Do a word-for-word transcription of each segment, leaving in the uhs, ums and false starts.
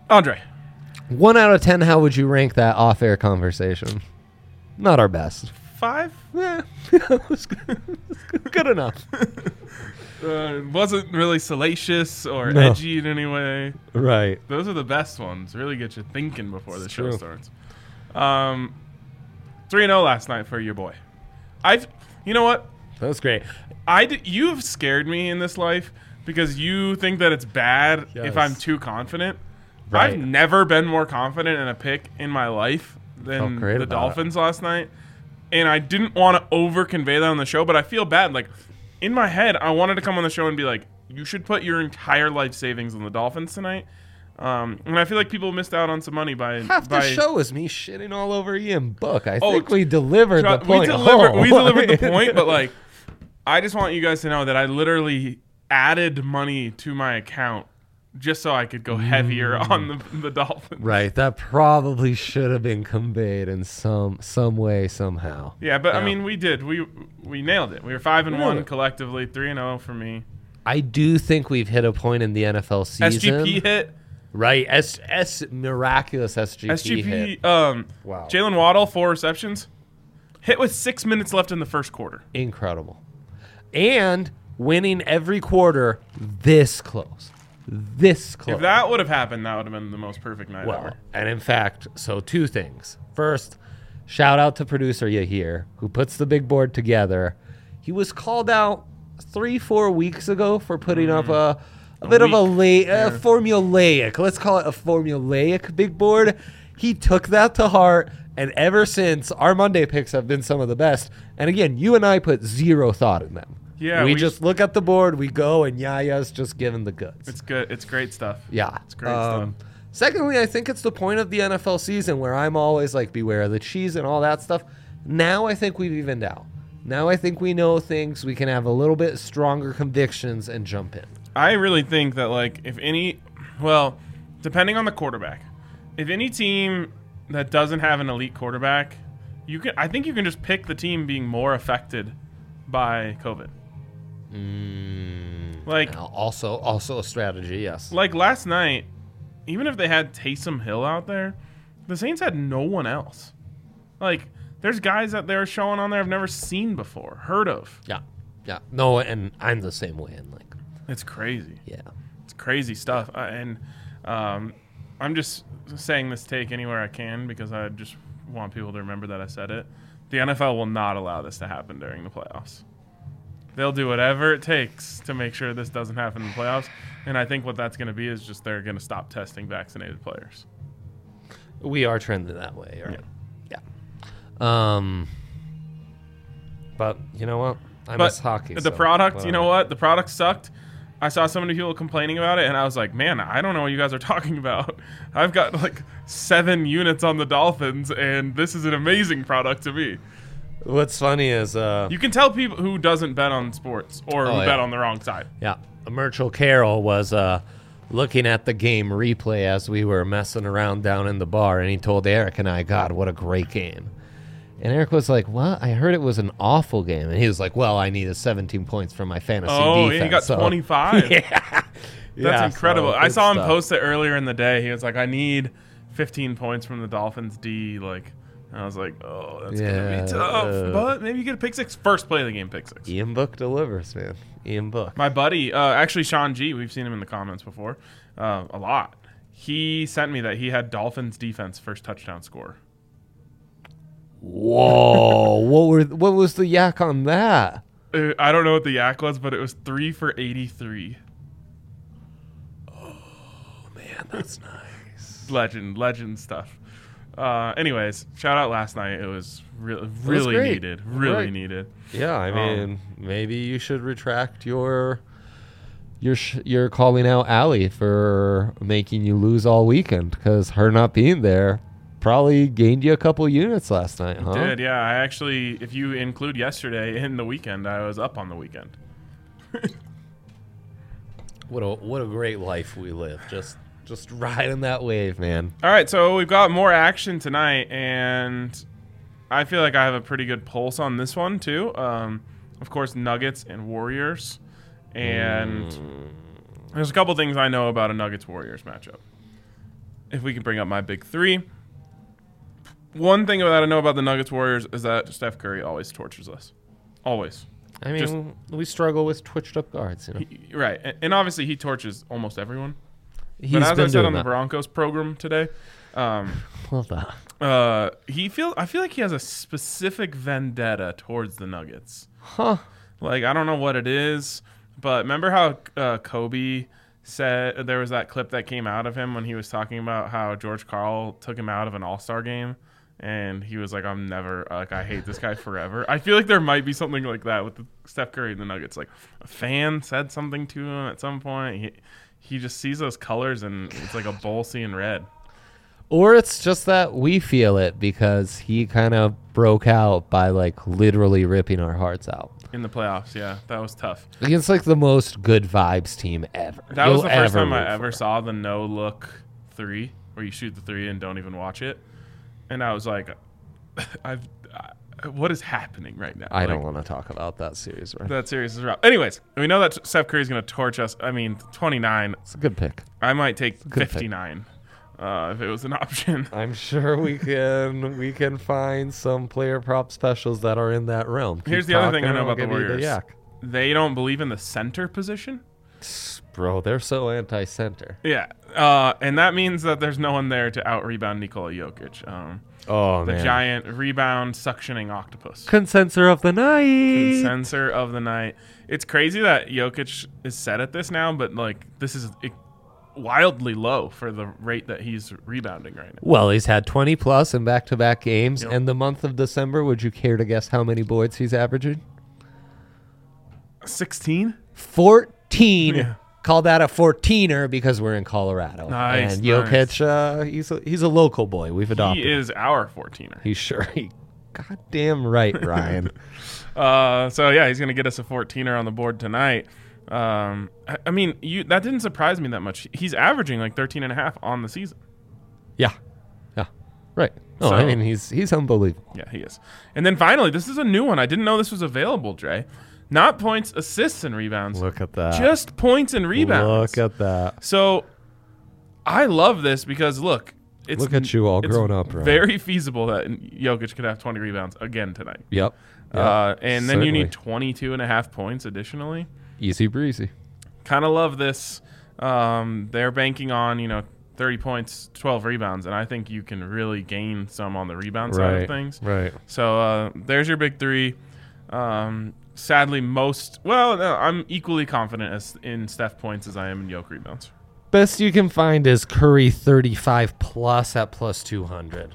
Andre. One out of ten, how would you rank that off-air conversation? Not our best. Five? Yeah, it was good, good enough. Uh, it wasn't really salacious or No. edgy in any way. Right. Those are the best ones. Really get you thinking before It's the show true. starts. Um, three and oh last night for your boy. I've, you know what? That was great. I d- you've scared me in this life because you think that it's bad Yes. if I'm too confident. Right. I've never been more confident in a pick in my life Felt than great the about Dolphins last night. And I didn't want to over convey that on the show, but I feel bad. Like, in my head, I wanted to come on the show and be like, you should put your entire life savings on the Dolphins tonight. Um, and I feel like people missed out on some money by Half by, the show is me shitting all over Ian Book. I Oh, think we delivered Try- the point. We delivered, home. we delivered the point, but like, I just want you guys to know that I literally added money to my account just so I could go heavier on the, the Dolphins. Right, that probably should have been conveyed in some some way somehow. Yeah, but I Yeah. mean, we did. We we nailed it. We were five and We nailed one it. collectively, three and zero for me. I do think we've hit a point in the N F L season. S G P hit. Right, S S miraculous S G P, S G P. hit. Um, Wow. Jalen Waddle four receptions. Hit with six minutes left in the first quarter. Incredible. And winning every quarter this close. This close. If that would have happened, that would have been the most perfect night Well, ever. and in fact, so two things. First, shout out to producer Yahir, who puts the big board together. He was called out three, four weeks ago for putting up a, a, A bit of a week, la- uh, formulaic, let's call it a formulaic big board. He took that to heart, and ever since, our Monday picks have been some of the best. And again, you and I put zero thought in them. Yeah, we, we- just look at the board, we go, and Yaya's just giving the goods. It's good. It's great stuff. Yeah. It's great Um, stuff. Secondly, I think it's the point of the N F L season where I'm always like, beware of the cheese and all that stuff. Now I think we've evened out. Now I think we know things. We can have a little bit stronger convictions and jump in. I really think that, like, if any, well, depending on the quarterback, if any team that doesn't have an elite quarterback, you can. I think you can just pick the team being more affected by COVID. Mm, Like- now, also, also a strategy, yes. Like last night, even if they had Taysom Hill out there, the Saints had no one else. Like, there's guys that they're showing on there I've never seen before, heard of. Yeah, yeah. No, and I'm the same way. And like, It's crazy. yeah, It's crazy stuff. Uh, and um, I'm just saying this take anywhere I can because I just want people to remember that I said it. The N F L will not allow this to happen during the playoffs. They'll do whatever it takes to make sure this doesn't happen in the playoffs. And I think what that's going to be is just they're going to stop testing vaccinated players. we are trending that way, right? Yeah. Um, but you know what? I But miss hockey. the so product, you know whatever. what? The product sucked. I saw so many people complaining about it, and I was like, man, I don't know what you guys are talking about. I've got like seven units on the Dolphins, and this is an amazing product to me. What's funny is, uh, You can tell people who doesn't bet on sports or Oh, who yeah. bet on the wrong side. yeah, Merchel Carroll was uh, looking at the game replay as we were messing around down in the bar, and he told Eric and I, God, what a great game. And Eric was like, what? I heard it was an awful game. And he was like, well, I needed seventeen points for my fantasy Oh, defense. and he got so- twenty-five. yeah. That's Yeah, incredible. so I good saw him stuff. post it earlier in the day. He was like, I need fifteen points from the Dolphins D. Like, I was like, oh, that's going to Yeah, be tough. uh, but maybe you get a pick six. First play of the game, pick six. Ian Book delivers, man. Ian Book. My buddy, uh, actually Sean G, we've seen him in the comments before, uh, a lot. He sent me that he had Dolphins defense first touchdown score. Whoa. what were what was the yak on that? Uh, I don't know what the yak was, but it was three for eighty-three. Man, that's nice. Legend, legend stuff. Uh, anyways, shout out last night. It was re- really great. needed. Really Right. needed. Yeah, I Um, mean, maybe you should retract your your sh- your calling out Allie for making you lose all weekend, because her not being there probably gained you a couple units last night, huh? Did, yeah. I actually, if you include yesterday in the weekend, I was up on the weekend. What a what a great life we live. Just just riding that wave, man. All right, so we've got more action tonight, and I feel like I have a pretty good pulse on this one, too. Um, of course, Nuggets and Warriors. And there's a couple things I know about a Nuggets-Warriors matchup. if we can bring up my big three. One thing that I know about the Nuggets Warriors is that Steph Curry always tortures us. Always. I mean, Just, we struggle with twitched up guards, you know. he, right. And, and obviously he tortures almost everyone. He's but as been I said doing on the that. Broncos program today, um, Well done. uh, he feel I feel like he has a specific vendetta towards the Nuggets. Huh. Like, I don't know what it is, but remember how uh, Kobe said there was that clip that came out of him when he was talking about how George Karl took him out of an All-Star game, and he was like, I'm never, like, I hate this guy forever. I feel like there might be something like that with the Steph Curry and the Nuggets. Like, a fan said something to him at some point. He, he just sees those colors, and it's like a bowl seeing red. Or it's just that we feel it because he kind of broke out by like literally ripping our hearts out. In the playoffs, yeah. That was tough. Against like the most good vibes team ever. That was You'll the first ever time I root ever for. saw the no-look three, where you shoot the three and don't even watch it. And I was like, I've, I, what is happening right now? I Like, don't want to talk about that series, right? that series is rough. Anyways, we know that Steph Curry's going to torch us. I mean, twenty-nine. It's a good pick. I might take good pick. fifty-nine uh, if it was an option. I'm sure we can we can find some player prop specials that are in that realm. Keep Here's the other thing I talking, know I'll about the give you Warriors. yak. They don't believe in the center position. Bro, they're so anti-center. Yeah, uh, and that means that there's no one there to out-rebound Nikola Jokic. Um, Oh, the man. giant rebound suctioning octopus. Consensor of the night. Censor of the night. It's crazy that Jokic is set at this now, but like this is i- wildly low for the rate that he's rebounding right now. Well, he's had twenty plus in back-to-back games. Yep. And the month of December, would you care to guess how many boards he's averaging? sixteen? fourteen. Yeah. Call that a fourteener because we're in Colorado. Nice, And nice. Jokic, uh, he's a, he's a local boy. We've adopted He him. is our fourteener. He's sure. He, goddamn right, Ryan. Uh, so yeah, he's gonna get us a fourteener on the board tonight. Um, I, I mean, you that didn't surprise me that much. He's averaging like thirteen and a half on the season. Yeah. Yeah. Right. No, So- I mean, he's he's unbelievable. Yeah, he is. And then finally, this is a new one. I didn't know this was available, Dre. Not points, assists, and rebounds. Look at that. Just points and rebounds. Look at that. So I love this because look, it's Look at you all it's grown up, right? Very feasible that Jokic could have twenty rebounds again tonight. Yep. Yep. Uh, and then you Certainly. need twenty-two and a half points additionally. Easy breezy. Kind of love this. Um, they're banking on, you know, thirty points, twelve rebounds, and I think you can really gain some on the rebound side Right. of things. Right. So uh, there's your big three. Um, sadly, most well, no, I'm equally confident as in Steph points as I am in Jokic rebounds. Best you can find is Curry thirty-five plus at plus two hundred.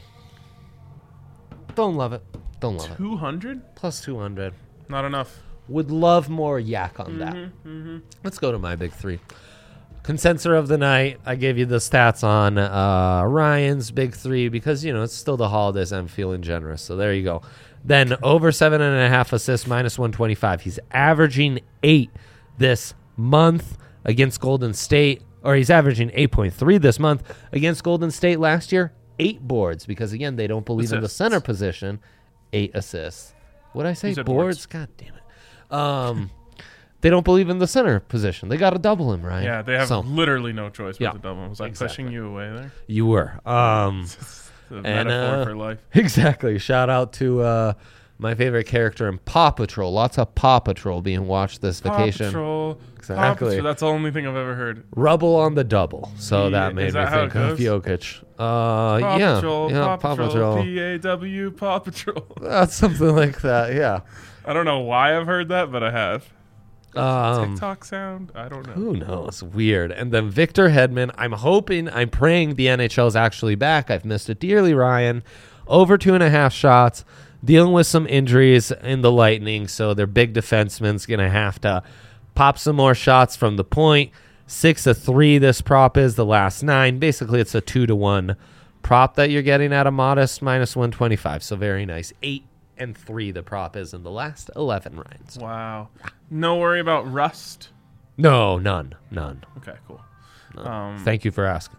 Don't love it. Don't love it. Two hundred? Plus two hundred. Not enough. Would love more yak on that. Let's go to my big three. Consensor of the night. I gave you the stats on uh, Ryan's big three because, you know, it's still the holidays. I'm feeling generous. So there you go. Then over seven and a half assists, minus one twenty-five. He's averaging eight this month against Golden State, or he's averaging eight point three this month against Golden State last year. Eight boards because, again, they don't believe in the Assists. center position. Eight assists. What did I say? You said Boards? boards. God damn it. Um, they don't believe in the center position. They got to double him, right? Yeah, they have So, literally no choice but Yeah, to double. Was I exactly. pushing you away there? you were. Um, The And, metaphor uh, for life. exactly. Shout out to uh, my favorite character in Paw Patrol. Lots of Paw Patrol being watched this vacation. Paw Patrol. Exactly. Paw Patrol. That's the only thing I've ever heard. Rubble on the double. So Yeah, that made is me that how think it of goes? Jokic. Uh, Paw yeah. Patrol. yeah, Paw Patrol. P A W. Paw Patrol. That's something like that. Yeah. I don't know why I've heard that, but I have. Um, TikTok sound? I don't know. Who knows? Weird. And then Victor Hedman. I'm hoping, I'm praying the N H L is actually back. I've missed it dearly, Ryan. Over two and a half shots. Dealing with some injuries in the Lightning, so their big defenseman's going to have to pop some more shots from the point. Six to three this prop is the last nine. Basically, it's a two to one prop that you're getting at a modest minus one twenty-five. So very nice. Eight and three the prop is in the last eleven rounds. Wow. No worry about rust. No, none. None. Okay, cool. none. Um, Thank you for asking.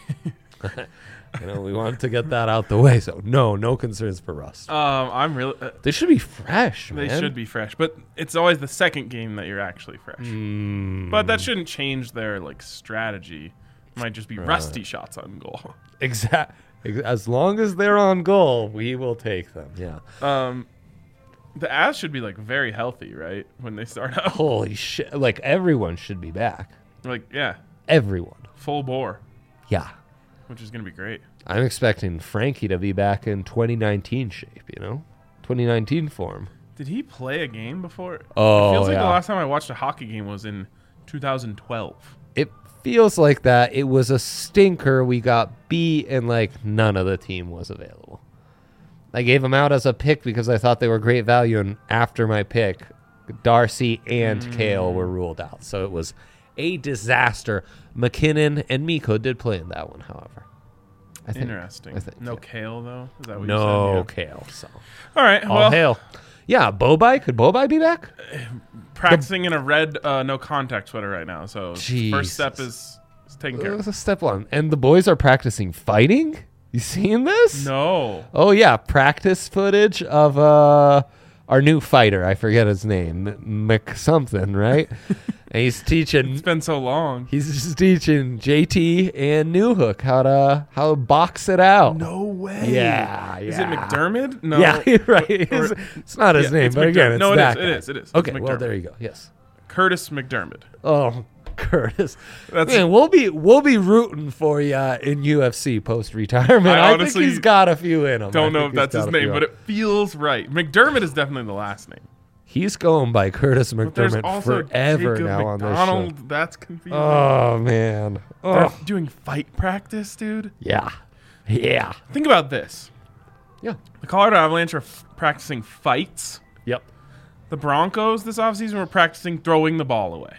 You know, we wanted to get that out the way, so no, no concerns for rust. Um, I'm really. Uh, They should be fresh, they man. should be fresh, but it's always the second game that you're actually fresh. Mm. But that shouldn't change their like strategy. might just be rusty shots on goal. Exact. As long as they're on goal, we will take them. Yeah. Um, the Avs should be like very healthy, right? When they start out. Holy shit! Like everyone should be back. Like yeah, Everyone. full bore, Yeah. which is gonna be great. I'm expecting Frankie to be back in twenty nineteen shape. You know, twenty nineteen form. Did he play a game before? Oh, it feels like yeah. the last time I watched a hockey game was in two thousand twelve. It feels like that. It was a stinker. We got beat, and like none of the team was available. I gave them out as a pick because I thought they were great value, and after my pick, Darcy and Mm. Kale were ruled out. So it was a disaster. McKinnon and Miko did play in that one, however. I think, Interesting. I think, no yeah. Kale though. Is that what No you said? Kale. So Yeah. All right. all well, hail. Yeah, Bobai. Could Bobai be back? practicing in a red uh, no contact sweater right now. So Jesus. first step is, is taken care That of. was a step one. And the boys are practicing fighting? You seen this? No. Oh yeah, practice footage of uh our new fighter. I forget his name, Mc something, right? And he's teaching. It's been so long. He's just teaching J T and Newhook how to how to box it out. No way. Yeah, Is it yeah. McDermott? No. Yeah, right. Or- It's, it's not his Yeah, name, it's but again, McDermott. it's No, it that is, it guy. is, it is. It's Okay, well McDermott. there you go. Yes. Curtis McDermott. Oh, Curtis. That's- Man, we'll be we'll be rooting for you in U F C post retirement. I I, honestly think he's got a few in him. Don't I know think if that's he's his got a name, few but in him. it feels right. McDermott is definitely the last name. He's going by Curtis But there's McDermott also forever Jacob now on McDonald. this show. That's confusing. Oh man. They're Oh doing fight practice, dude. yeah, yeah, Think about this. yeah. The Colorado Avalanche are f- practicing fights. Yep. The Broncos this offseason were practicing throwing the ball away.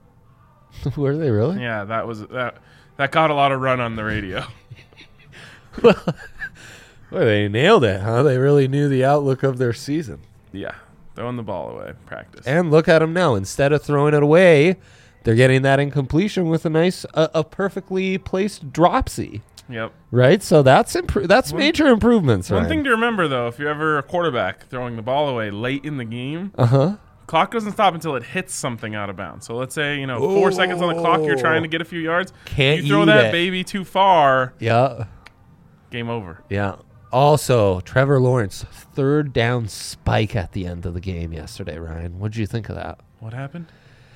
Were they really? Yeah, that was that. That got a lot of run on the radio. Well, they nailed it, huh? They really knew the outlook of their season. Yeah, throwing the ball away practice. And look at them now. Instead of throwing it away, they're getting that incompletion with a nice, uh, a perfectly placed dropsy. Yep. Right, so that's impro- That's One- major improvements. One Ryan. thing to remember, though, if you're ever a quarterback throwing the ball away late in the game, Uh huh. clock doesn't stop until it hits something out of bounds. So let's say, you know, four seconds on the clock, you're trying to get a few yards. Can't you throw eat that it. baby too far, Yeah. game over. Yeah. Also, Trevor Lawrence third down spike at the end of the game yesterday. Ryan, what did you think of that? What happened?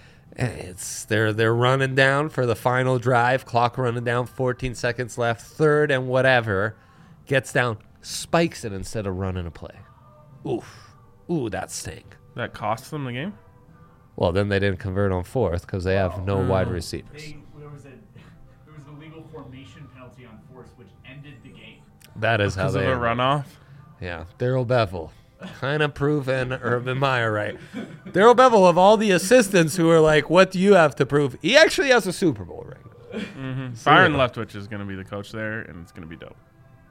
It's they're they're running down for the final drive. Clock running down. fourteen seconds left. Third and whatever. Gets down, spikes it instead of running a play. Oof. Ooh, that stank. That cost them the game? Well, then they didn't convert on fourth because they have no Oh. wide receivers. They, there was a there was a legal formation penalty on fourth, which ended the game. That is how Because of they a runoff? Yeah, Daryl Bevel. Kind of proven Urban Meyer right. Daryl Bevel, of all the assistants who are like, what do you have to prove? He actually has a Super Bowl ring. Mm-hmm. Byron Leftwich is going to be the coach there, and it's going to be dope.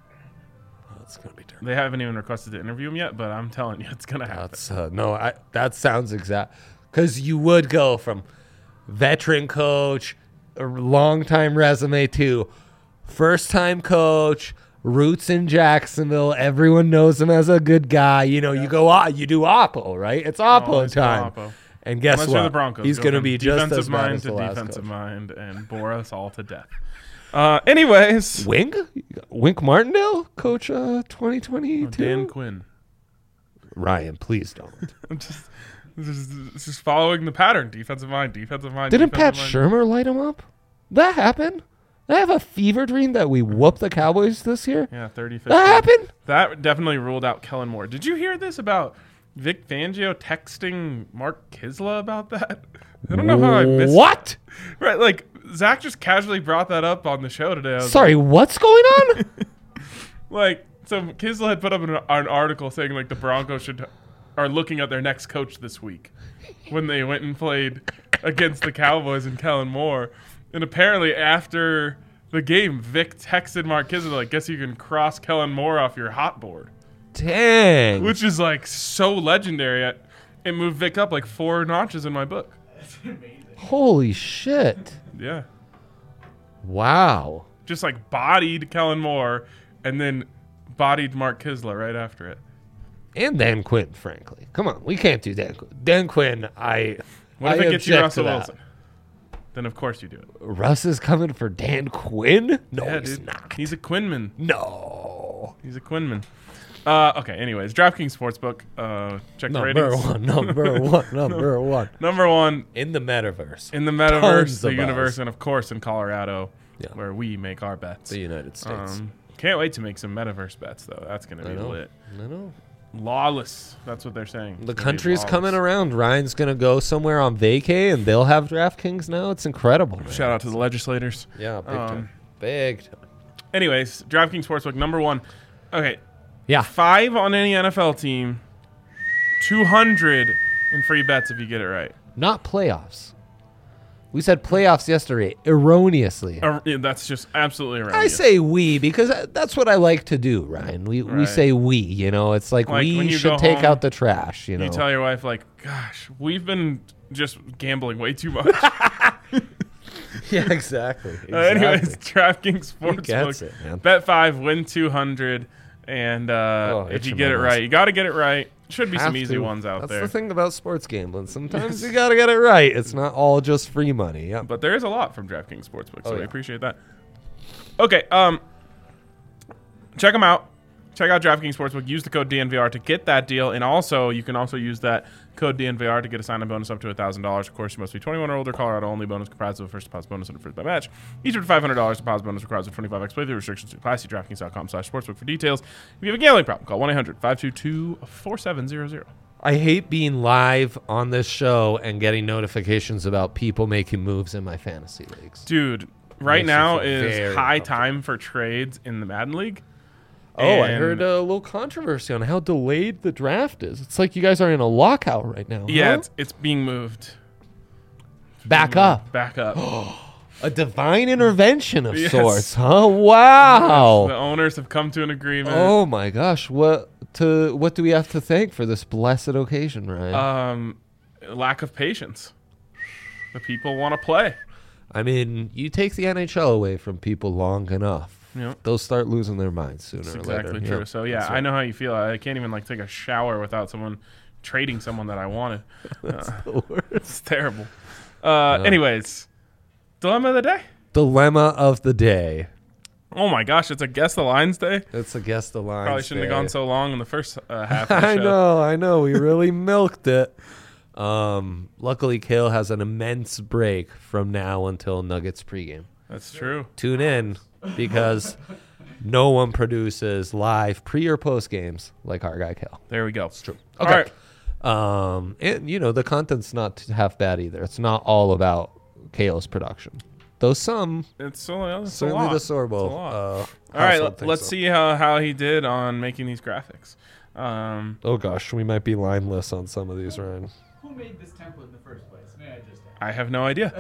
That's going to be terrible. They haven't even requested to interview him yet, but I'm telling you, it's going to happen. That's, uh, no, I, that sounds exact. Because you would go from veteran coach, a long-time resume, to first-time coach, roots in Jacksonville. Everyone knows him as a good guy. You know, you go, ah, you do Oppo, right? It's Oppo Always go time. Oppo. And guess Unless what? you're the Broncos. He's Go going to from be just defensive as bad mind as the to last defensive coach. mind and bore us all to death. Uh, anyways, Wink? Wink Martindale, coach uh, twenty twenty-two? Dan Quinn. Ryan, please don't. I'm just, just, just following the pattern. Defensive mind, defensive mind. Didn't Pat defensive mind. Shermer light him up? That happened? I have a fever dream that we whooped the Cowboys this year. Yeah, thirty fifteen. That happened? That definitely ruled out Kellen Moore. Did you hear this about Vic Fangio texting Mark Kisla about that? I don't know how I missed What? it. Right, like, Zach just casually brought that up on the show today. I was Sorry, what's going on? Like, so Kisla had put up an, an article saying, like, the Broncos should are looking at their next coach this week when they went and played against the Cowboys and Kellen Moore. And apparently after the game, Vic texted Mark Kisla, like, guess you can cross Kellen Moore off your hot board. Dang. Which is, like, so legendary. It, it moved Vic up, like, four notches in my book. That's amazing. Holy shit. Yeah. Wow. Just, like, bodied Kellen Moore and then bodied Mark Kisla right after it. And Dan Quinn, frankly. Come on, we can't do Dan Quinn. Dan Quinn, I What if I it gets you object Russell to that. Wilson? then of course you do it. Russ is coming for Dan Quinn? No, Yeah, he's dude. not. He's a Quinman. no. He's a Quinman. Uh, okay, anyways, DraftKings Sportsbook. Uh, check the Number ratings. one, number one, number one. Number one In the metaverse. in the metaverse, Tons the of universe, buzz. and of course in Colorado, Yeah. where we make our bets. The United States. Um, can't wait to make some metaverse bets, though. That's going to I be know. lit. I know. Lawless. That's what they're saying. It's The gonna be country's lawless. coming around. Ryan's going to go somewhere on vacay, and they'll have DraftKings now. It's incredible, man. Shout out to the legislators. Yeah, big Um, time. Big time. Anyways, DraftKings Sportsbook, number one. Okay, Yeah. five on any N F L team, two hundred in free bets if you get it right. Not playoffs. We said playoffs yesterday erroneously. Uh, yeah, that's just absolutely right. I say we because that's what I like to do, Ryan. We we Right. say we, you know. It's like, Like, when we you should go take home, out the trash, you know. You tell your wife, like, gosh, we've been just gambling way too much. yeah, exactly. Uh, anyways, DraftKings gets Sportsbook. it, man. Bet five, win two hundred. And uh, Oh, if you itching get my it nose. right, you got to get it right. Should be Have some easy to. ones out That's there. the thing about sports gambling. Sometimes you got to get it right. It's not all just free money. Yeah. But there is a lot from DraftKings Sportsbook, so Oh, we yeah. appreciate that. Okay, um, check them out. Check out DraftKings Sportsbook. Use the code D N V R to get that deal, and also you can also use that code D N V R to get a sign-up bonus up to one thousand dollars. Of course, you must be twenty-one or older. Colorado only. Bonus comprised of a first deposit bonus and a first bet match. Each of five hundred dollars deposit bonus requires a twenty-five x playthrough. Restrictions apply. See DraftKings.com slash sportsbook for details. If you have a gambling problem, call one eight hundred five two two four seven zero zero. I hate being live on this show and getting notifications about people making moves in my fantasy leagues. Dude, right Makes you now feel is very high uncomfortable. time for trades in the Madden League. Oh, I And- heard a little controversy on how delayed the draft is. It's like you guys are in a lockout right now. Yeah, huh? it's, it's being moved. Back Being up. moved Back up. A divine intervention of Yes. sorts, huh? The Wow. owners have come to an agreement. Oh my gosh, what to what do we have to thank for this blessed occasion, Ryan? Um, lack of patience. The people want to play. I mean, you take the N H L away from people long enough, Yeah. they'll start losing their minds sooner That's or exactly later. true. Yeah, So yeah, that's I right. know how you feel. I can't even like take a shower without someone trading someone that I wanted. Uh, The worst. it's terrible. Uh, anyways, dilemma of the day. Dilemma of the day. Oh my gosh, it's a guess the lines day. It's a guess the line. Probably shouldn't have gone so long in the first uh, half of the I show. know, I know. We really milked it. Um, luckily, Kale has an immense break from now until Nuggets pregame. That's true. Tune in because no one produces live pre or post games like our guy Kale. There we go. It's true. Okay. All right. Um, and you know the content's not half bad either. It's not all about Kale's production, though some It's, so, it's a certainly lot. the It's a Sorbo. lot. Uh, All right, household let, thinks let's so. see how, how he did on making these graphics. Um, Oh gosh, we might be lineless on some of these, Ryan. Who made this template in the first place? May I just ask? I have no idea.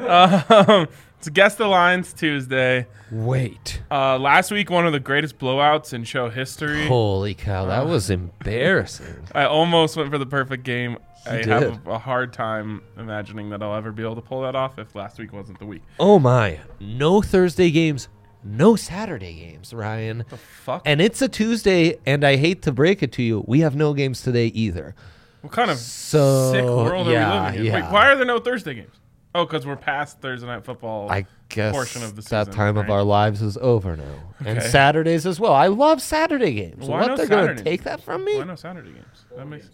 um, it's Guess the Lines Tuesday. Wait. Uh, last week, one of the greatest blowouts in show history. Holy cow, Uh. that was embarrassing. I almost went for the perfect game. I did. have a, a hard time imagining that I'll ever be able to pull that off if last week wasn't the week. Oh my. No Thursday games, no Saturday games, Ryan. The fuck? And it's a Tuesday, and I hate to break it to you, we have no games today either. What kind of So, sick world yeah, are we living in? yeah. Wait, why are there no Thursday games? Oh, because we're past Thursday Night Football. I guess portion of the that season, time of right? our lives is over now. And Okay. Saturdays as well. I love Saturday games. Why what, no they're going Saturdays? to take that from me? Why no Saturday games? That makes.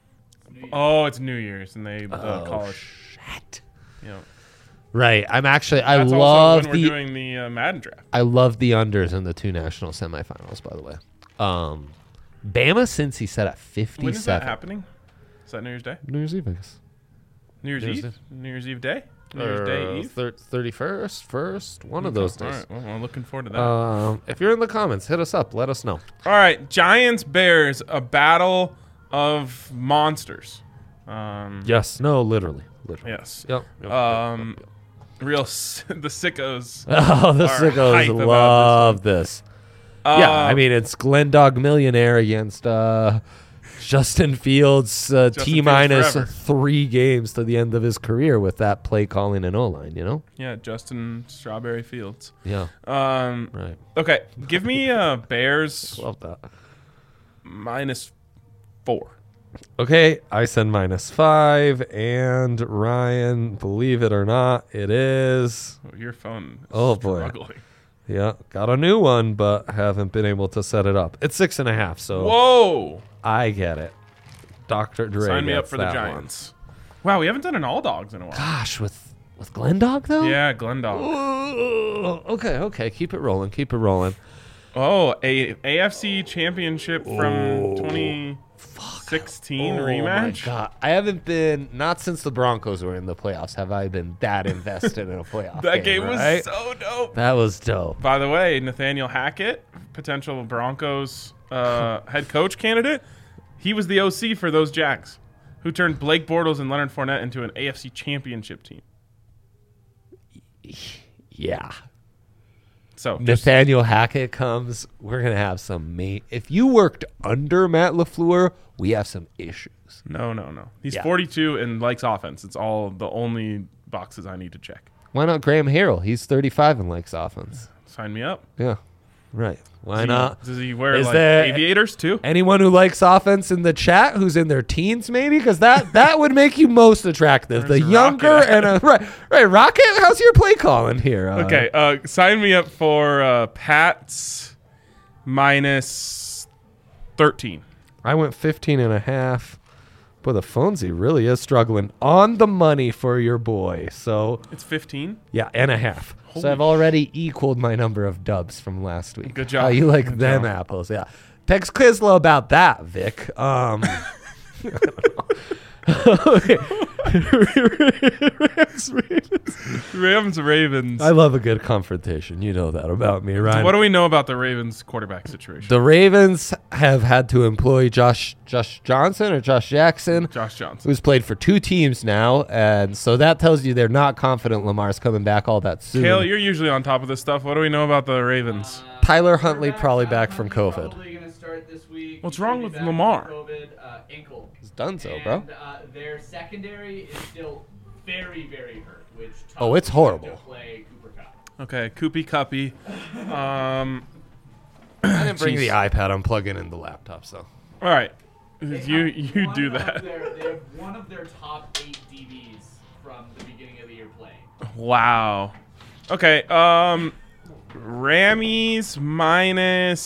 Oh, it's New Year's and they uh, Oh, call it. shit. You know, Right. I'm actually, I that's love also when we're the doing the uh, Madden draft. I love the unders in the two national semifinals, by the way. Um, Bama, since he set at fifty-seven. When is that happening? Is that New Year's Day? New Year's Eve, I guess. New Year's New Year's Eve? New Year's Eve day? New Year's Day Eve? Thir- thirty-first, first, one of those All days. right. Well, I'm looking forward to that. Um, if you're in the comments, hit us up. Let us know. All right. Giants Bears, a battle of monsters. Um, Yes. No, literally. Literally. Yes. Yep. yep, Um, yep, yep, Real s- the sickos. yep. Oh, the are hype sickos about love this. yeah, Uh, I mean, it's Glen Dog Millionaire against uh, Justin Fields, uh, Justin T Fields minus forever. three games to the end of his career with that play calling and O line, you know? yeah, Justin Strawberry Fields. Yeah, Um, right. okay, give me uh, Bears Love that. minus four. Okay, I said minus five, and Ryan, believe it or not, it is. Oh, your phone is Oh, boy. struggling. Yeah, got a new one, but haven't been able to set it up. It's six and a half, so Whoa! I get it. Doctor Dre. Sign me up gets for the that one. Giants. Wow, we haven't done an all dogs in a while. Gosh, with with Glendog though. Yeah, Glendog. Ooh, okay, okay. Keep it rolling. Keep it rolling. Oh, a AFC Championship from twenty sixteen Oh rematch. my God, I haven't been not since the Broncos were in the playoffs. Have I been that invested in a playoff? That game was right? so dope. That was dope. By the way, Nathaniel Hackett, potential Broncos uh, head coach candidate, he was the O C for those Jags, who turned Blake Bortles and Leonard Fournette into an A F C Championship team. Yeah. So just, Nathaniel Hackett comes. We're gonna have some mate. If you worked under Matt LaFleur, we have some issues. no, no, no. He's Yeah. forty-two and likes offense. It's all the only boxes I need to check. Why not Graham Harrell? He's thirty-five and likes offense. Sign me up. Yeah. Right. Why Does he- not? Does he wear Is like there- aviators too? Anyone who likes offense in the chat who's in their teens, maybe, because that that would make you most attractive. The Where's younger Rocket at? and a, right, right. Rocket, how's your play calling here? Uh, Okay, uh, sign me up for uh, Pats minus thirteen. I went fifteen and a half. Boy, the Fonzie really is struggling on the money for your boy. So, It's fifteen. yeah, and a half. So I've already equaled my number of dubs from last week. Good job. How you like Good them job. apples? Yeah. Text Quizlo about that, Vic. Um, Rams Ravens. I love a good confrontation. You know that about me, Ryan. What do we know about the Ravens quarterback situation? the Ravens have had to employ Josh Josh Johnson or Josh Jackson, Josh Johnson. who's played for two teams now, and so that tells you they're not confident Lamar's coming back all that soon. Kale, you're usually on top of this stuff. What do we know about the Ravens? Tyler Huntley probably back from COVID. Probably gonna start this week. What's He wrong should be with back from Lamar? COVID, uh, ankle. It's done so, bro. And, uh, their secondary is still very, very hurt. Which Oh, it's toughs horrible. To play Cooper Cup. Okay, Koopy Cuppy. Um, I didn't bring Jeez. the iPad. I'm plugging in the laptop, so. all right, They you have you one do of that. Their, they have one of their top eight D Bs from the beginning of the year playing. Wow. Okay. Um, Rammies minus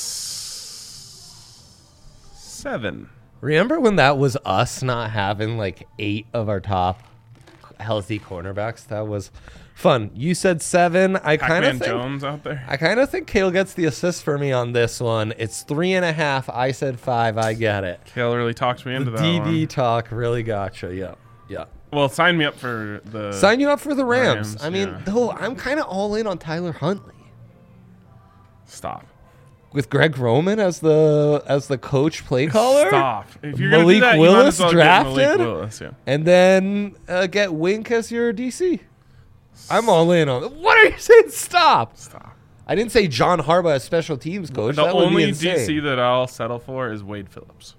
seven. Remember when that was us not having like eight of our top healthy cornerbacks? That was fun. You said seven. I kind Pac-Man of think Jones out there. I kind of think Kale gets the assist for me on this one. It's three and a half. I said five. I get it. Kale really talked me into the that D D one. talk really gotcha. Yeah, yeah. Well, sign me up for the. Sign you up for the Rams. Rams, I mean, yeah. though I'm kind of all in on Tyler Huntley Stop. with Greg Roman as the as the coach play caller. Stop. If you're gonna Malik do that, you might Willis as well get drafted? Malik Willis, yeah. And then uh, get Wink as your D C. I'm all in on. What are you saying? Stop. Stop. I didn't say John Harbaugh as special teams coach. The that would only be insane. D C that I'll settle for is Wade Phillips.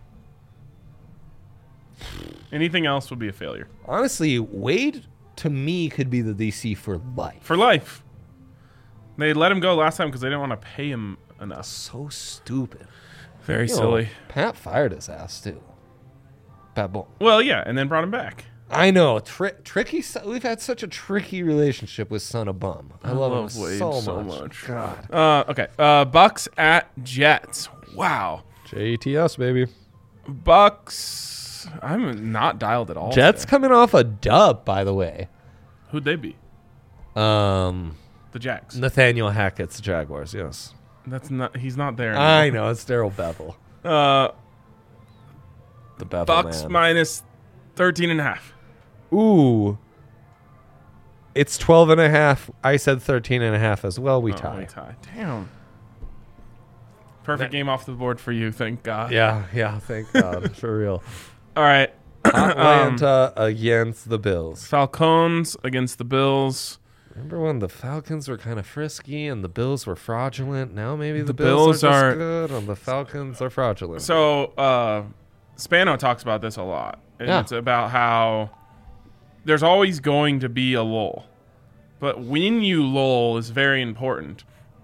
Anything else would be a failure. Honestly, Wade to me could be the D C for life. For life. They let him go last time because they didn't want to pay him enough. So stupid. Very You know, silly. Pat fired his ass too. Bad bull. Well, yeah, and then brought him back. I know. Tri- tricky. son- We've had such a tricky relationship with Son of Bum. I, love, love him Wade so, so much. much. God. Uh, okay. Uh, Bucks at Jets. Wow. J E T S baby. Bucks. I'm not dialed at all. Jets today. coming off a dub, by the way. Who'd they be? Um, The Jags. Nathaniel Hackett's Jaguars. Yes. That's not. He's not there. I anymore. know. It's Daryl Bevel. Uh, The Bevel Bucks man. minus thirteen and a half. Ooh. It's twelve and a half. I said thirteen and a half as well. We Oh, tie. we tie. Damn. Perfect game off the board for you. Thank God. Yeah, yeah. Thank God. For real. All right. Um, Atlanta against the Bills. Falcons against the Bills. Remember when the Falcons were kind of frisky and the Bills were fraudulent? Now maybe the, The Bills, Bills are, just are- good and the Falcons are fraudulent. So uh, Spano talks about this a lot. And Yeah. it's about how there's always going to be a lull. But when you lull is very important.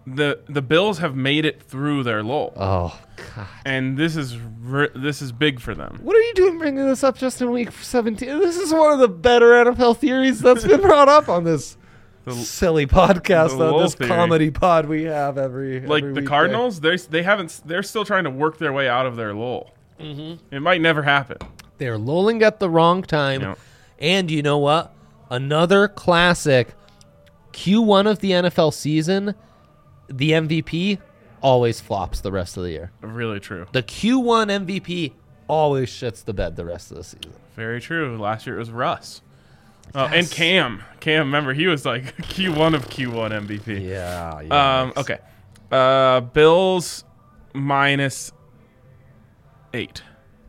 the the Bills have made it through their lull, Oh God! and this is re- this is big for them. What are you doing bringing this up just in week seventeen? This is one of the better N F L theories that's been brought up on this The- silly podcast, the on lull this theory. comedy pod we have every Like every the weekday. Cardinals, they they haven't they're still trying to work their way out of their lull. Mm-hmm. It might never happen. They're lulling at the wrong time. Yeah. And you know what? Another classic Q one of the N F L season, the M V P always flops the rest of the year. Really true. The Q one M V P always shits the bed the rest of the season. Very true. Last year it was Russ. Oh, and Cam. Cam, remember, he was like Q one of Q one M V P. Yeah. Um, okay. Uh, Bills minus eight.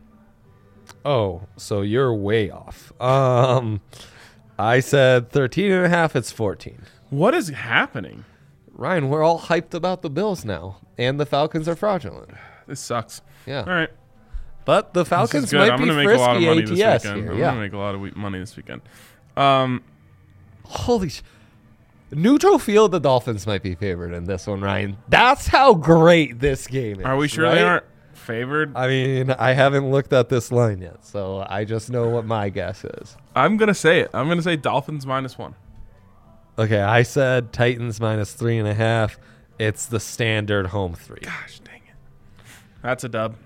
Oh, so you're way off. Um, I said thirteen and a half. It's fourteen. What is happening? Ryan, we're all hyped about the Bills now, and the Falcons are fraudulent. This sucks. Yeah. All right. But the This is Falcons good. might I'm be gonna make a lot of frisky money A T this S weekend. here. I'm Yeah. gonna make a lot of we- money this weekend. Um, Holy sh! Neutral field, the Dolphins might be favored in this one, Ryan. That's how great this game is. are we sure right? they aren't favored? I mean, I haven't looked at this line yet, so I just know what my guess is. I'm gonna say it. I'm gonna say Dolphins minus one. Okay, I said Titans minus three and a half. It's the standard home three. Gosh dang it. That's a dub.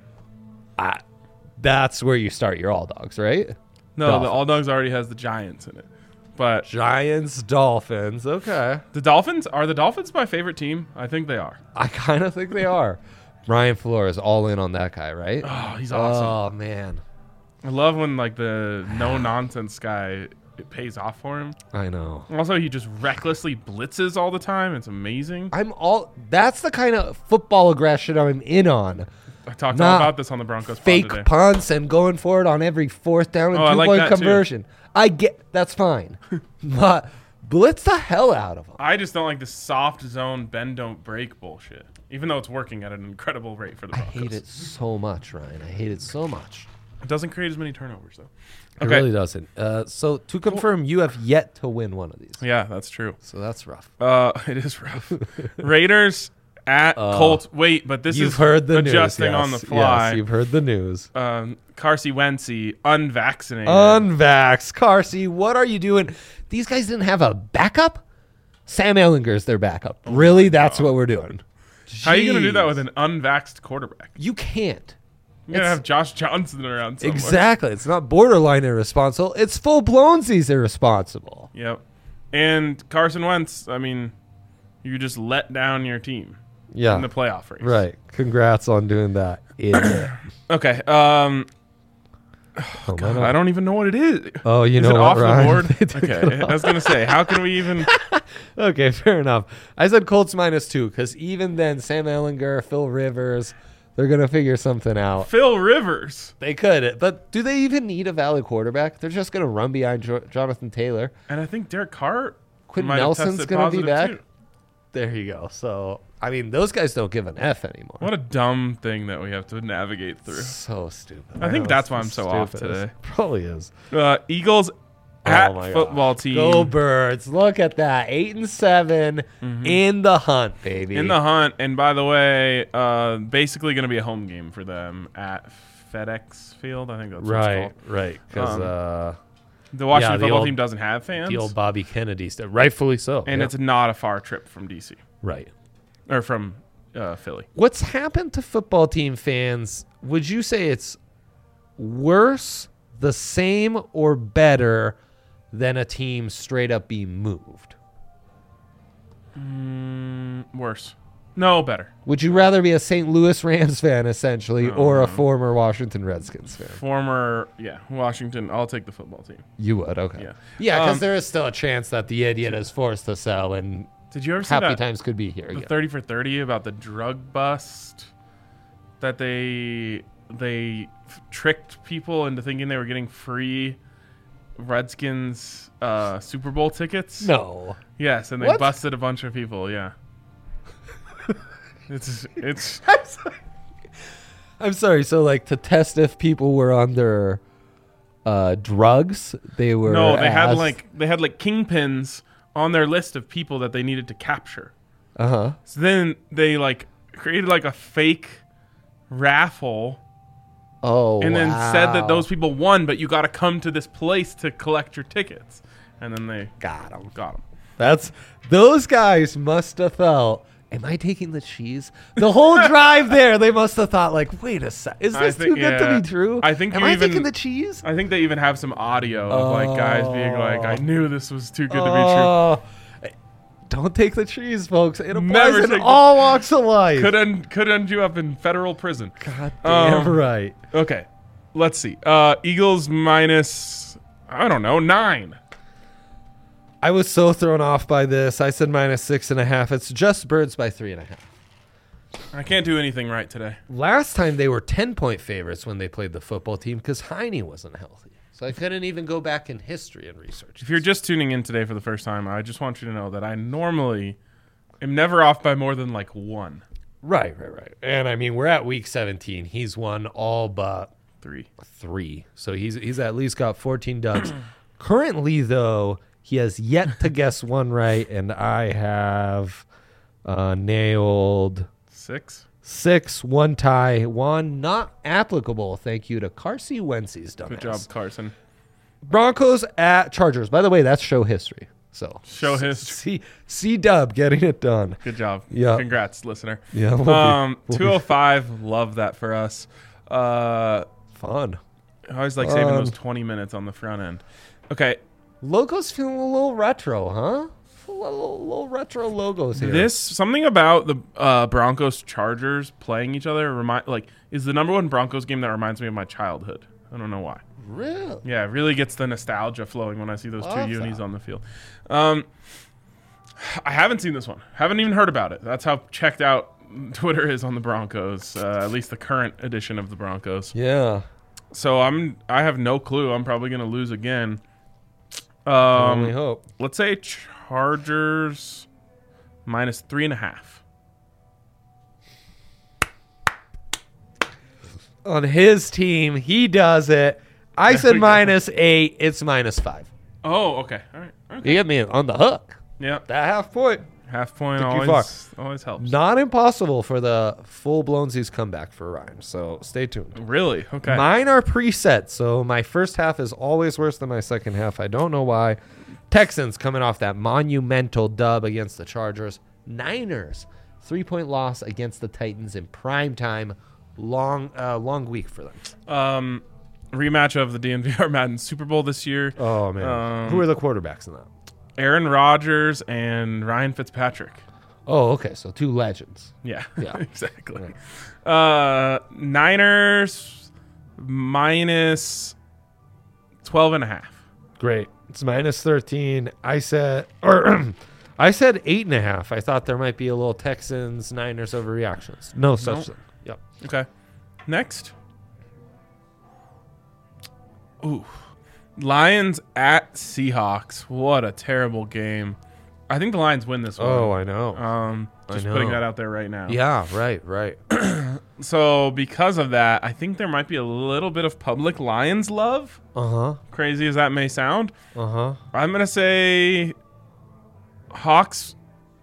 I, that's where you start your all dogs, right? No, Dolphins. the All Dogs already has the Giants in it. But Giants, Dolphins. Okay. the Dolphins, are the Dolphins my favorite team? I think they are. I kind of think they are. Brian Flores all in on that guy, right? Oh, he's awesome. Oh, man. I love when like the no nonsense guy, it pays off for him. I know. Also, he just recklessly blitzes all the time. It's amazing. I'm all. That's the kind of football aggression I'm in on. I talked Nah, all about this on the Broncos pod Fake today. punts and going for it on every fourth down and Oh, I two like point that too. conversion. I get that's fine. But blitz the hell out of them. I just don't like the soft zone bend don't break bullshit. Even though it's working at an incredible rate for the I Broncos. hate it so much, Ryan. I hate it so much. It doesn't create as many turnovers though. It Okay. really doesn't. Uh, so to confirm, you have yet to win one of these. Yeah, that's true. So that's rough. Uh, it is rough. Raiders at Uh, Colts. Wait, but this you've is heard the adjusting news. on the yes. fly. Yes, you've heard the news. um, Carsey Wentzy, unvaccinated. Unvax. Carsey, what are you doing? These guys didn't have a backup? Sam Ellinger's their backup. really? That's what we're doing. How are you going to do that Jeez. with an unvaxxed quarterback? You can't. You're going to It's- have Josh Johnson around somewhere. Exactly. It's not borderline irresponsible. It's full blown he's irresponsible. Yep. And Carson Wentz, I mean, you just let down your team Yeah. in the playoff race. Right. Congrats on doing that. Idiot. Okay. Um, Oh, God, man. I don't even know what it is. Oh, you is know it what, off Ryan? the board? They took Okay. it I was going to say, how can we even... Okay, fair enough. I said Colts minus two because even then, Sam Ellinger, Phil Rivers, they're going to figure something out. Phil Rivers. They could, but do they even need a valid quarterback? They're just going to run behind jo- Jonathan Taylor. And I think Derek Carr Quentin might have Nelson's tested going to be positive, back. too. There you go. So, I mean, those guys don't give an F anymore. What a dumb thing that we have to navigate through. So stupid. I think know, that's it's why the I'm so off stupidest. today. Probably is. Uh, Eagles at Oh my football gosh. team. Go Birds. Look at that. Eight and 7 in the hunt, baby. In the hunt, and by the way, uh, basically going to be a home game for them at FedEx Field. I think that's what Right, it's called. right. Because Um, uh, The Washington Yeah, the football old- team doesn't have fans, the old Bobby Kennedy stuff. Rightfully so. and yeah. it's not a far trip from D C right. or from uh, Philly. What's happened to football team fans? Would you say it's worse, the same, or better than a team straight up being moved? Mm, worse. No, better. Would you rather be a Saint Louis Rams fan, essentially, or a No. former Washington Redskins fan? Former, yeah, Washington. I'll take the football team. You would, okay. Yeah. Yeah, because Um, there is still a chance that the idiot is forced to sell, and Did you ever see happy that times could be here the again. thirty for thirty about the drug bust that they they f- tricked people into thinking they were getting free Redskins uh, Super Bowl tickets? No. Yes, and they What? busted a bunch of people. Yeah. it's it's I'm sorry. So, like, to test if people were under uh, drugs, they were. no. They had asked- like they had like kingpins on their list of people that they needed to capture. Uh huh. So then they like created like a fake raffle Oh, and then said that wow. those people won, but you got to come to this place to collect your tickets. And then they got them. got them. That's those guys must have felt. Am I taking the cheese? The whole drive there, they must have thought like, wait a sec, is I this think- too good yeah. to be true? I think Am you I even- taking the cheese? I think they even have some audio of like guys being like, I knew this was too good to be true. Oh, don't take the cheese, folks. It applies Never in take the- all walks of life. Could end, could end you up in federal prison. God damn Um, right. Okay, let's see. Uh, Eagles minus, I don't know, nine. I was so thrown off by this. I said minus six and a half. It's just Birds by three and a half. I can't do anything right today. Last time they were ten-point favorites when they played the football team because Heine wasn't healthy. So I couldn't even go back in history and research. If you're just tuning in today for the first time, I just want you to know that I normally am never off by more than like one, Right, right, right. And I mean, we're at week seventeen. He's won all but three. three. So he's he's at least got fourteen dubs. Currently, though, he has yet to guess one right, and I have uh, nailed Six. six, one tie, one not applicable. Thank you to Carsey Wentz's dumbass. Good job, Carson. Broncos at Chargers. By the way, that's show history. So Show history. C C Dub getting it done. Good job. Yeah. Congrats, listener. Yeah, we'll be- Um, we'll be two oh five. Love that for us. Uh, fun. I always like saving Um, those twenty minutes on the front end. Okay, Logos feeling a little retro, huh? A little, little retro logos here. this something about the uh, Broncos Chargers playing each other remind like is the number one Broncos game that reminds me of my childhood. I don't know why. Really? Yeah, it really gets the nostalgia flowing when I see those Love two unis that. on the field. Um, I haven't seen this one. Haven't even heard about it. That's how checked out Twitter is on the Broncos. Uh, at least the current edition of the Broncos. Yeah. So I'm I have no clue. I'm probably gonna lose again. I only Um, hope. let's say Chargers minus three and a half. On his team, he does it. I There said we go. minus eight. It's minus five. Oh, okay. All right. Okay. You get me on the hook. Yeah. That half point. Half point Took you always always helps. Not impossible for the full blown Z's comeback for Ryan. So stay tuned. Really? Okay. Mine are preset, so my first half is always worse than my second half. I don't know why. Texans coming off that monumental dub against the Chargers. Niners, three-point loss against the Titans in prime time. Long, uh, long week for them. um, rematch of the D N V R Madden Super Bowl this year. Oh man, Um, who are the quarterbacks in that? Aaron Rodgers and Ryan Fitzpatrick. Oh, okay, so two legends. Yeah. Yeah. exactly. Uh, Niners minus twelve and a half. Great. It's minus thirteen. I said, or I said eight and a half. I thought there might be a little Texans Niners overreactions. No such Nope. thing. Yep. Okay. Next. Ooh. Lions at Seahawks. What a terrible game. I think the Lions win this one. Oh, I know. Um, I just know. putting that out there right now. Yeah, right, right. So because of that, I think there might be a little bit of public Lions love. Uh huh. Crazy as that may sound. Uh huh. I'm going to say Hawks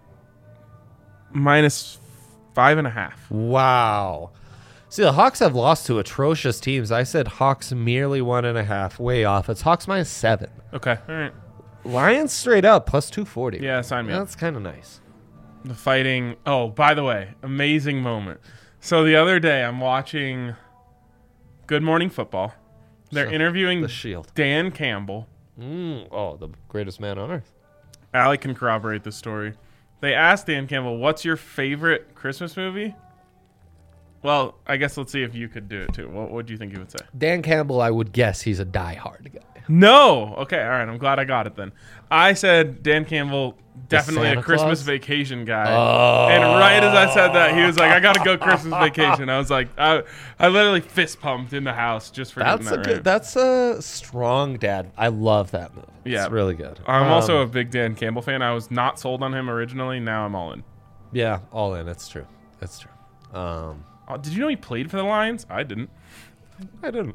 minus five and a half. Wow. See, the Hawks have lost to atrocious teams. I said Hawks merely one and a half. Way off. It's Hawks minus seven. Okay. All right. Lions straight up plus two forty. Yeah, sign me up. That's kind of nice. The fighting. Oh, by the way, amazing moment. So the other day, I'm watching Good Morning Football. They're So, interviewing The Shield. Dan Campbell. Mm, oh, the greatest man on earth. Allie can corroborate this story. They asked Dan Campbell, "What's your favorite Christmas movie?" Well, I guess let's see if you could do it too. What what do you think he would say? Dan Campbell, I would guess he's a diehard guy. No. Okay. All right. I'm glad I got it then. I said Dan Campbell, definitely Santa a Christmas Claus? Vacation guy. Oh. And right as I said that, he was like, "I got to go Christmas Vacation." I was like, I, I literally fist pumped in the house just for That's a getting that good. right. That's a strong dad. I love that movie. Yeah. It's really good. I'm Um, also a big Dan Campbell fan. I was not sold on him originally. Now I'm all in. yeah, all in. It's true. It's true. Um, Oh, did you know he played for the Lions? I didn't. I didn't.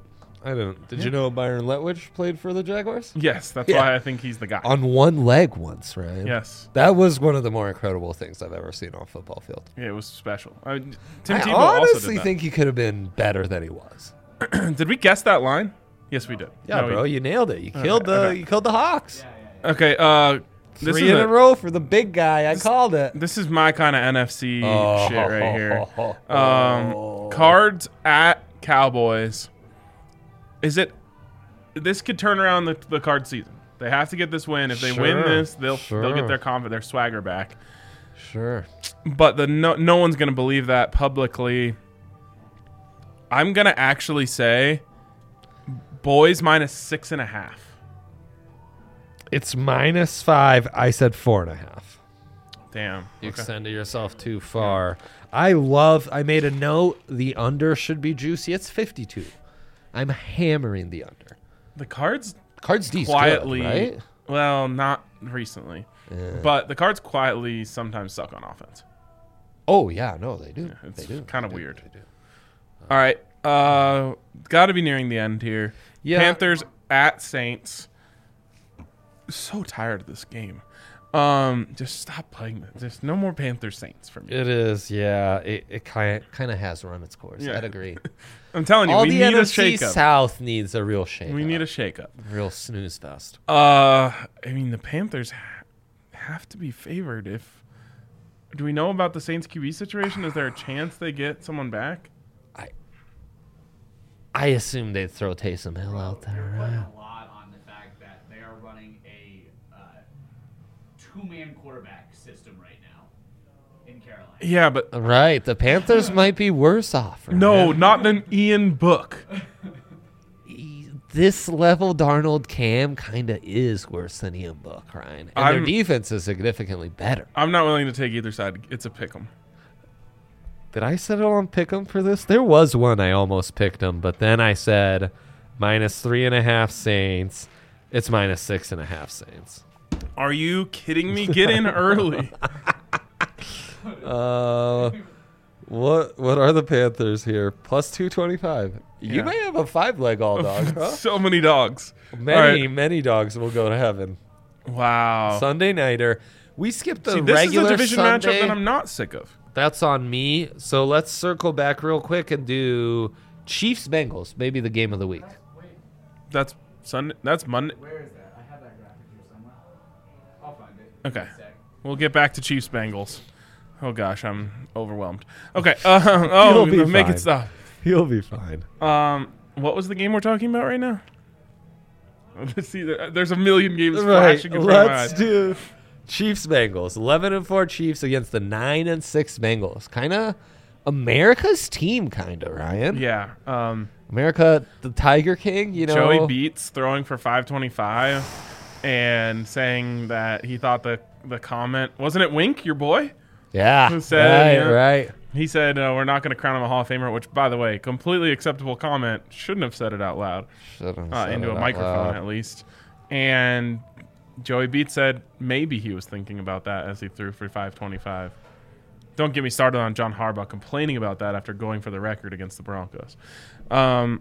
I don't. Did you know Byron Leftwich played for the Jaguars? Yes, that's Yeah. why I think he's the guy. On one leg once, right? Yes. That was one of the more incredible things I've ever seen on a football field. Yeah, it was special. I, Tim I Tebow also honestly did that. think he could have been better than he was. Did we guess that line? Yes, we did. Yeah, No, we- bro, you nailed it. You killed the okay. you killed the Hawks. Yeah, yeah, yeah. Okay, uh, this Three is in a, a row for the big guy. I called it. This is my kind of N F C Oh. shit right here. Um, Cards at Cowboys. Is it? This could turn around the, the card season. They have to get this win. If they win Sure, this, they'll they'll sure. get their confidence, their swagger back. Sure. But the no no one's gonna believe that publicly. I'm gonna actually say, boys minus six and a half. It's minus five. I said four and a half. Damn. You Okay. extended yourself too far. I love. I made a note. The under should be juicy. It's fifty-two. I'm hammering the under. The cards Cards D's quietly, good, right? well, not recently, Yeah. but the cards quietly sometimes suck on offense. Oh yeah, no, they do. It's they do. kind of They do. weird. They do. All right, uh, got to be nearing the end here. Yeah. Panthers at Saints. So tired of this game. Um, just stop playing this. There's no more Panthers Saints for me. It is, yeah. It it kind kind of has run its course. Yeah. I'd agree. I'm telling you, All we the need N a F C shakeup. South needs a real shake. We need a shakeup. real snooze fest. Uh, I mean, the Panthers ha- have to be favored. If do we know about the Saints Q B situation? Is there a chance they get someone back? I assume they'd throw Taysom Hill out They're there. putting Right? a lot on the fact that they are running a uh, two-man quarterback system right now in Carolina. Yeah, but Right. The Panthers might be worse off. Right? no, not an Ian Book. This level Darnold Cam kind of is worse than Ian Book, Ryan. And I'm- their defense is significantly better. I'm not willing to take either side. It's a pick 'em. Did I settle on pick 'em for this? There was one I almost picked 'em, but then I said minus three and a half Saints. It's minus six and a half Saints. Are you kidding me? Get in early. Uh, what what are the Panthers here? Plus two twenty five. You Yeah. may have a five leg all dog. Huh? So many dogs. Many All right. many dogs will go to heaven. Wow. Sunday nighter. We skipped the See, this regular is a division Sunday. matchup that I'm not sick of. That's on me. So let's circle back real quick and do Chiefs Bengals, maybe the game of the week. Wait, That's Sunday. That's Monday. where is that? I have that graphic here somewhere. I'll find it. Okay. In a sec. We'll get back to Chiefs Bengals. Oh gosh, I'm overwhelmed. Okay. Uh, oh, You'll be make fine. it stop. He'll be fine. Um, what was the game we're talking about right now? Let's see. There, there's a million games Right. flashing in front of my Let's eyes. do Chiefs Bengals. eleven and four Chiefs against the nine and six Bengals. Kind of America's team, kind of, Ryan. Yeah. Um, America, the Tiger King, you know. Joey Beats throwing for five twenty-five and saying that he thought the the comment wasn't it Wink, your boy? Yeah. Who said, right, yeah. right. He said uh, we're not going to crown him a Hall of Famer, which, by the way, completely acceptable comment. Shouldn't have said it out loud, Shouldn't uh, say into it a out microphone loud. at least. And Joey Beats said maybe he was thinking about that as he threw for five twenty-five. Don't get me started on John Harbaugh complaining about that after going for the record against the Broncos. Um,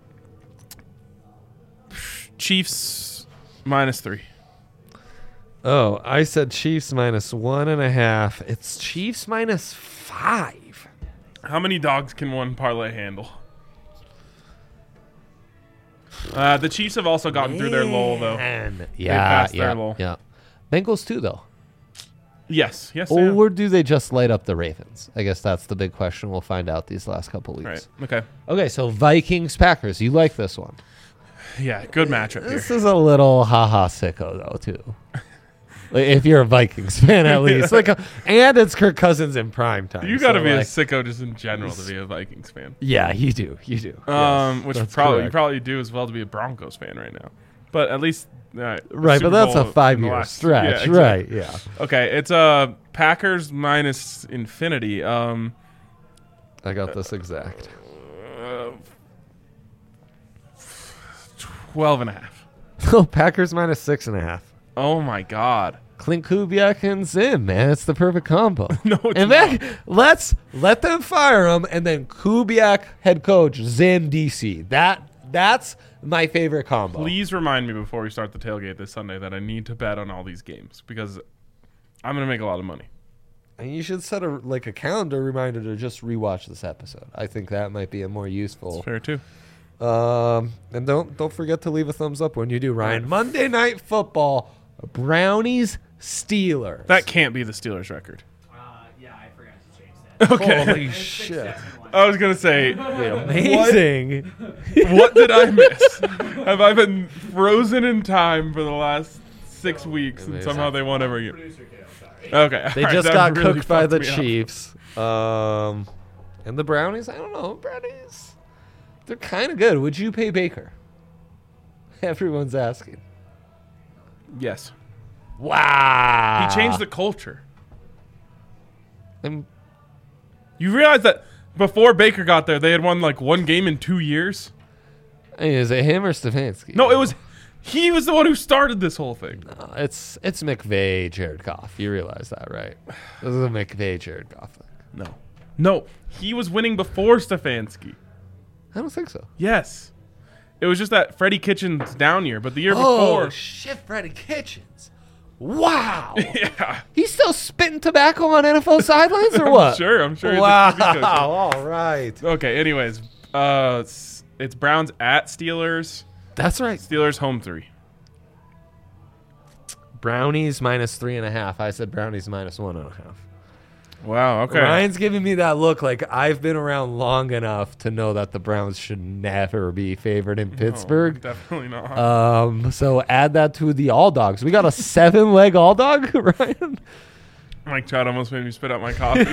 Chiefs minus three. Oh, I said Chiefs minus one and a half. It's Chiefs minus five. How many dogs can one parlay handle? Uh, the Chiefs have also gotten through their lull, though. Man. Yeah, passed their yeah, lull. yeah. Bengals too, though. Yes, yes, they have. Or do they just light up the Ravens? I guess that's the big question. We'll find out these last couple weeks. Right. Okay. Okay, so Vikings Packers. You like this one? Yeah, good matchup here. This is a little haha sicko though too. Like, if you're a Vikings fan, at least like, a, and it's Kirk Cousins in prime time. You got to so, be like, a sicko just in general to be a Vikings fan. Yeah, you do. You do. Um, Yes, which that's probably you correct. probably do as well to be a Broncos fan right now. But at least uh, Right, Super but that's Bowl a in five the year last- stretch. yeah, exactly. Right. Yeah. Okay, it's uh Packers minus infinity. Um, I got this exact. uh, twelve and a half. Oh, Packers minus six and a half. Oh my God. Clint Kubiak and Zim, man, it's the perfect combo. No, it's and not. then let's let them fire him, and then Kubiak head coach, Zim D C. That That's my favorite combo. Please remind me before we start the tailgate this Sunday that I need to bet on all these games because I'm going to make a lot of money. And you should set a like a calendar reminder to just rewatch this episode. I think that might be a more useful. It's fair too. Um, and don't don't forget to leave a thumbs up when you do, Ryan. Monday Night Football, Brownies, Steelers. That can't be the Steelers record. Uh, yeah, I forgot to change that. Okay. Holy It's shit! six, seven, one. I was going to say, Amazing. what did I miss? Have I been frozen in time for the last six weeks and Amazing. somehow they won every year? Producer Kale, sorry. Okay. They all right, just that got really cooked by fucked the me up. Chiefs. Um, and the Brownies. I don't know. Brownies. They're kind of good. Would you pay Baker? Everyone's asking. Yes. Wow. He changed the culture. I'm, You realize that before Baker got there, they had won like one game in two years? I mean, is it him or Stefanski? No, it was he was the one who started this whole thing. No, it's it's McVay, Jared Goff. You realize that, right? This is a McVay, Jared Goff thing. No. No, he was winning before Stefanski. I don't think so. Yes. It was just that Freddie Kitchens down year, but the year Oh before. shit, Freddie Kitchens! Wow, Yeah. he's still spitting tobacco on N F L sidelines or what? Sure, I'm sure. he's a Wow. T V coach. All right. Okay, anyways. Uh, it's, it's Browns at Steelers. That's right. Steelers home three. Brownies minus three and a half. I said Brownies minus one and a half. Wow, okay. Ryan's giving me that look like I've been around long enough to know that the Browns should never be favored in No, Pittsburgh. definitely not. Um, so add that to the all dogs. We got a seven leg all dog, Ryan. Mike Trout almost made me spit out my coffee.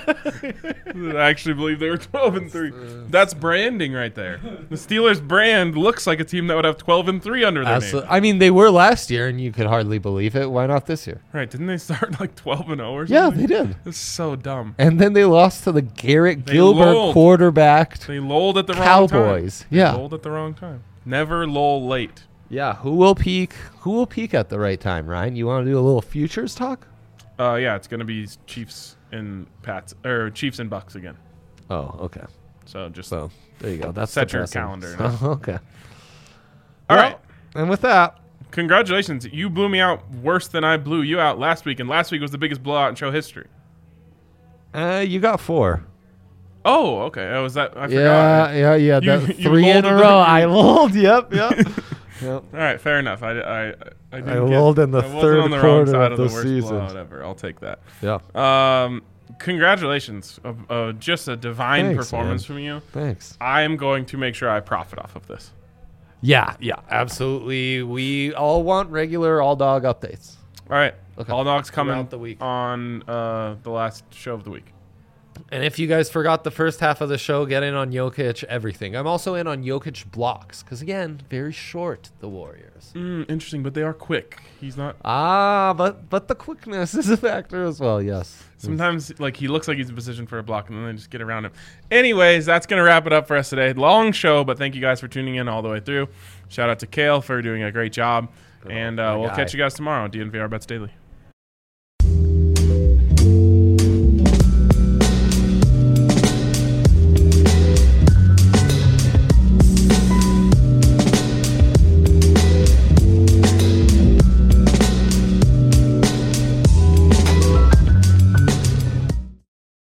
I actually believe they were twelve and three. That's branding right there. The Steelers brand looks like a team that would have twelve and three under their Absolutely. name. I mean, they were last year, and you could hardly believe it. Why not this year? Right? Didn't they start like twelve and zero or Yeah, something? they did. It's so dumb. And then they lost to the Garrett They Gilbert lulled. quarterbacked. They lulled at the wrong time. Cowboys. They Yeah. lulled at the wrong time. Never lull late. Yeah, who will peak? Who will peak at the right time, Ryan? You want to do a little futures talk? Uh, yeah, it's gonna be Chiefs and Pats or Chiefs and Bucks again. Oh, okay. So just So there you go. That's Set your depressing. calendar. So, okay. all Well, right. And with that, Congratulations, you blew me out worse than I blew you out last week, and last week was the biggest blowout in show history. uh, you got four. Oh, okay. Oh, was that? I Yeah, forgot. yeah, yeah. You- that, you three in lulled a in row. the- I lulled. Yep, yep. Yep. All right, fair enough. I, I, I, didn't I get- lulled in the I wasn't third on the wrong quarter side of of the the worst season. blowout ever. I'll take that. Yeah. Um, congratulations. Uh, uh, just a divine Thanks, performance man. from you. Thanks. I am going to make sure I profit off of this. Yeah, yeah, absolutely. We all want regular all dog updates. All right. Okay. All dogs coming Throughout the week. on uh, the last show of the week. And if you guys forgot the first half of the show, get in on Jokic, everything. I'm also in on Jokic blocks because, again, very short, the Warriors. Mm, interesting, but they are quick. He's not. Ah, but but the quickness is a factor as well, yes. Sometimes, like, he looks like he's in position for a block, and then they just get around him. Anyways, that's going to wrap it up for us today. Long show, but thank you guys for tuning in all the way through. Shout out to Kale for doing a great job. And uh, my we'll guy. catch you guys tomorrow on D N V R Bets Daily.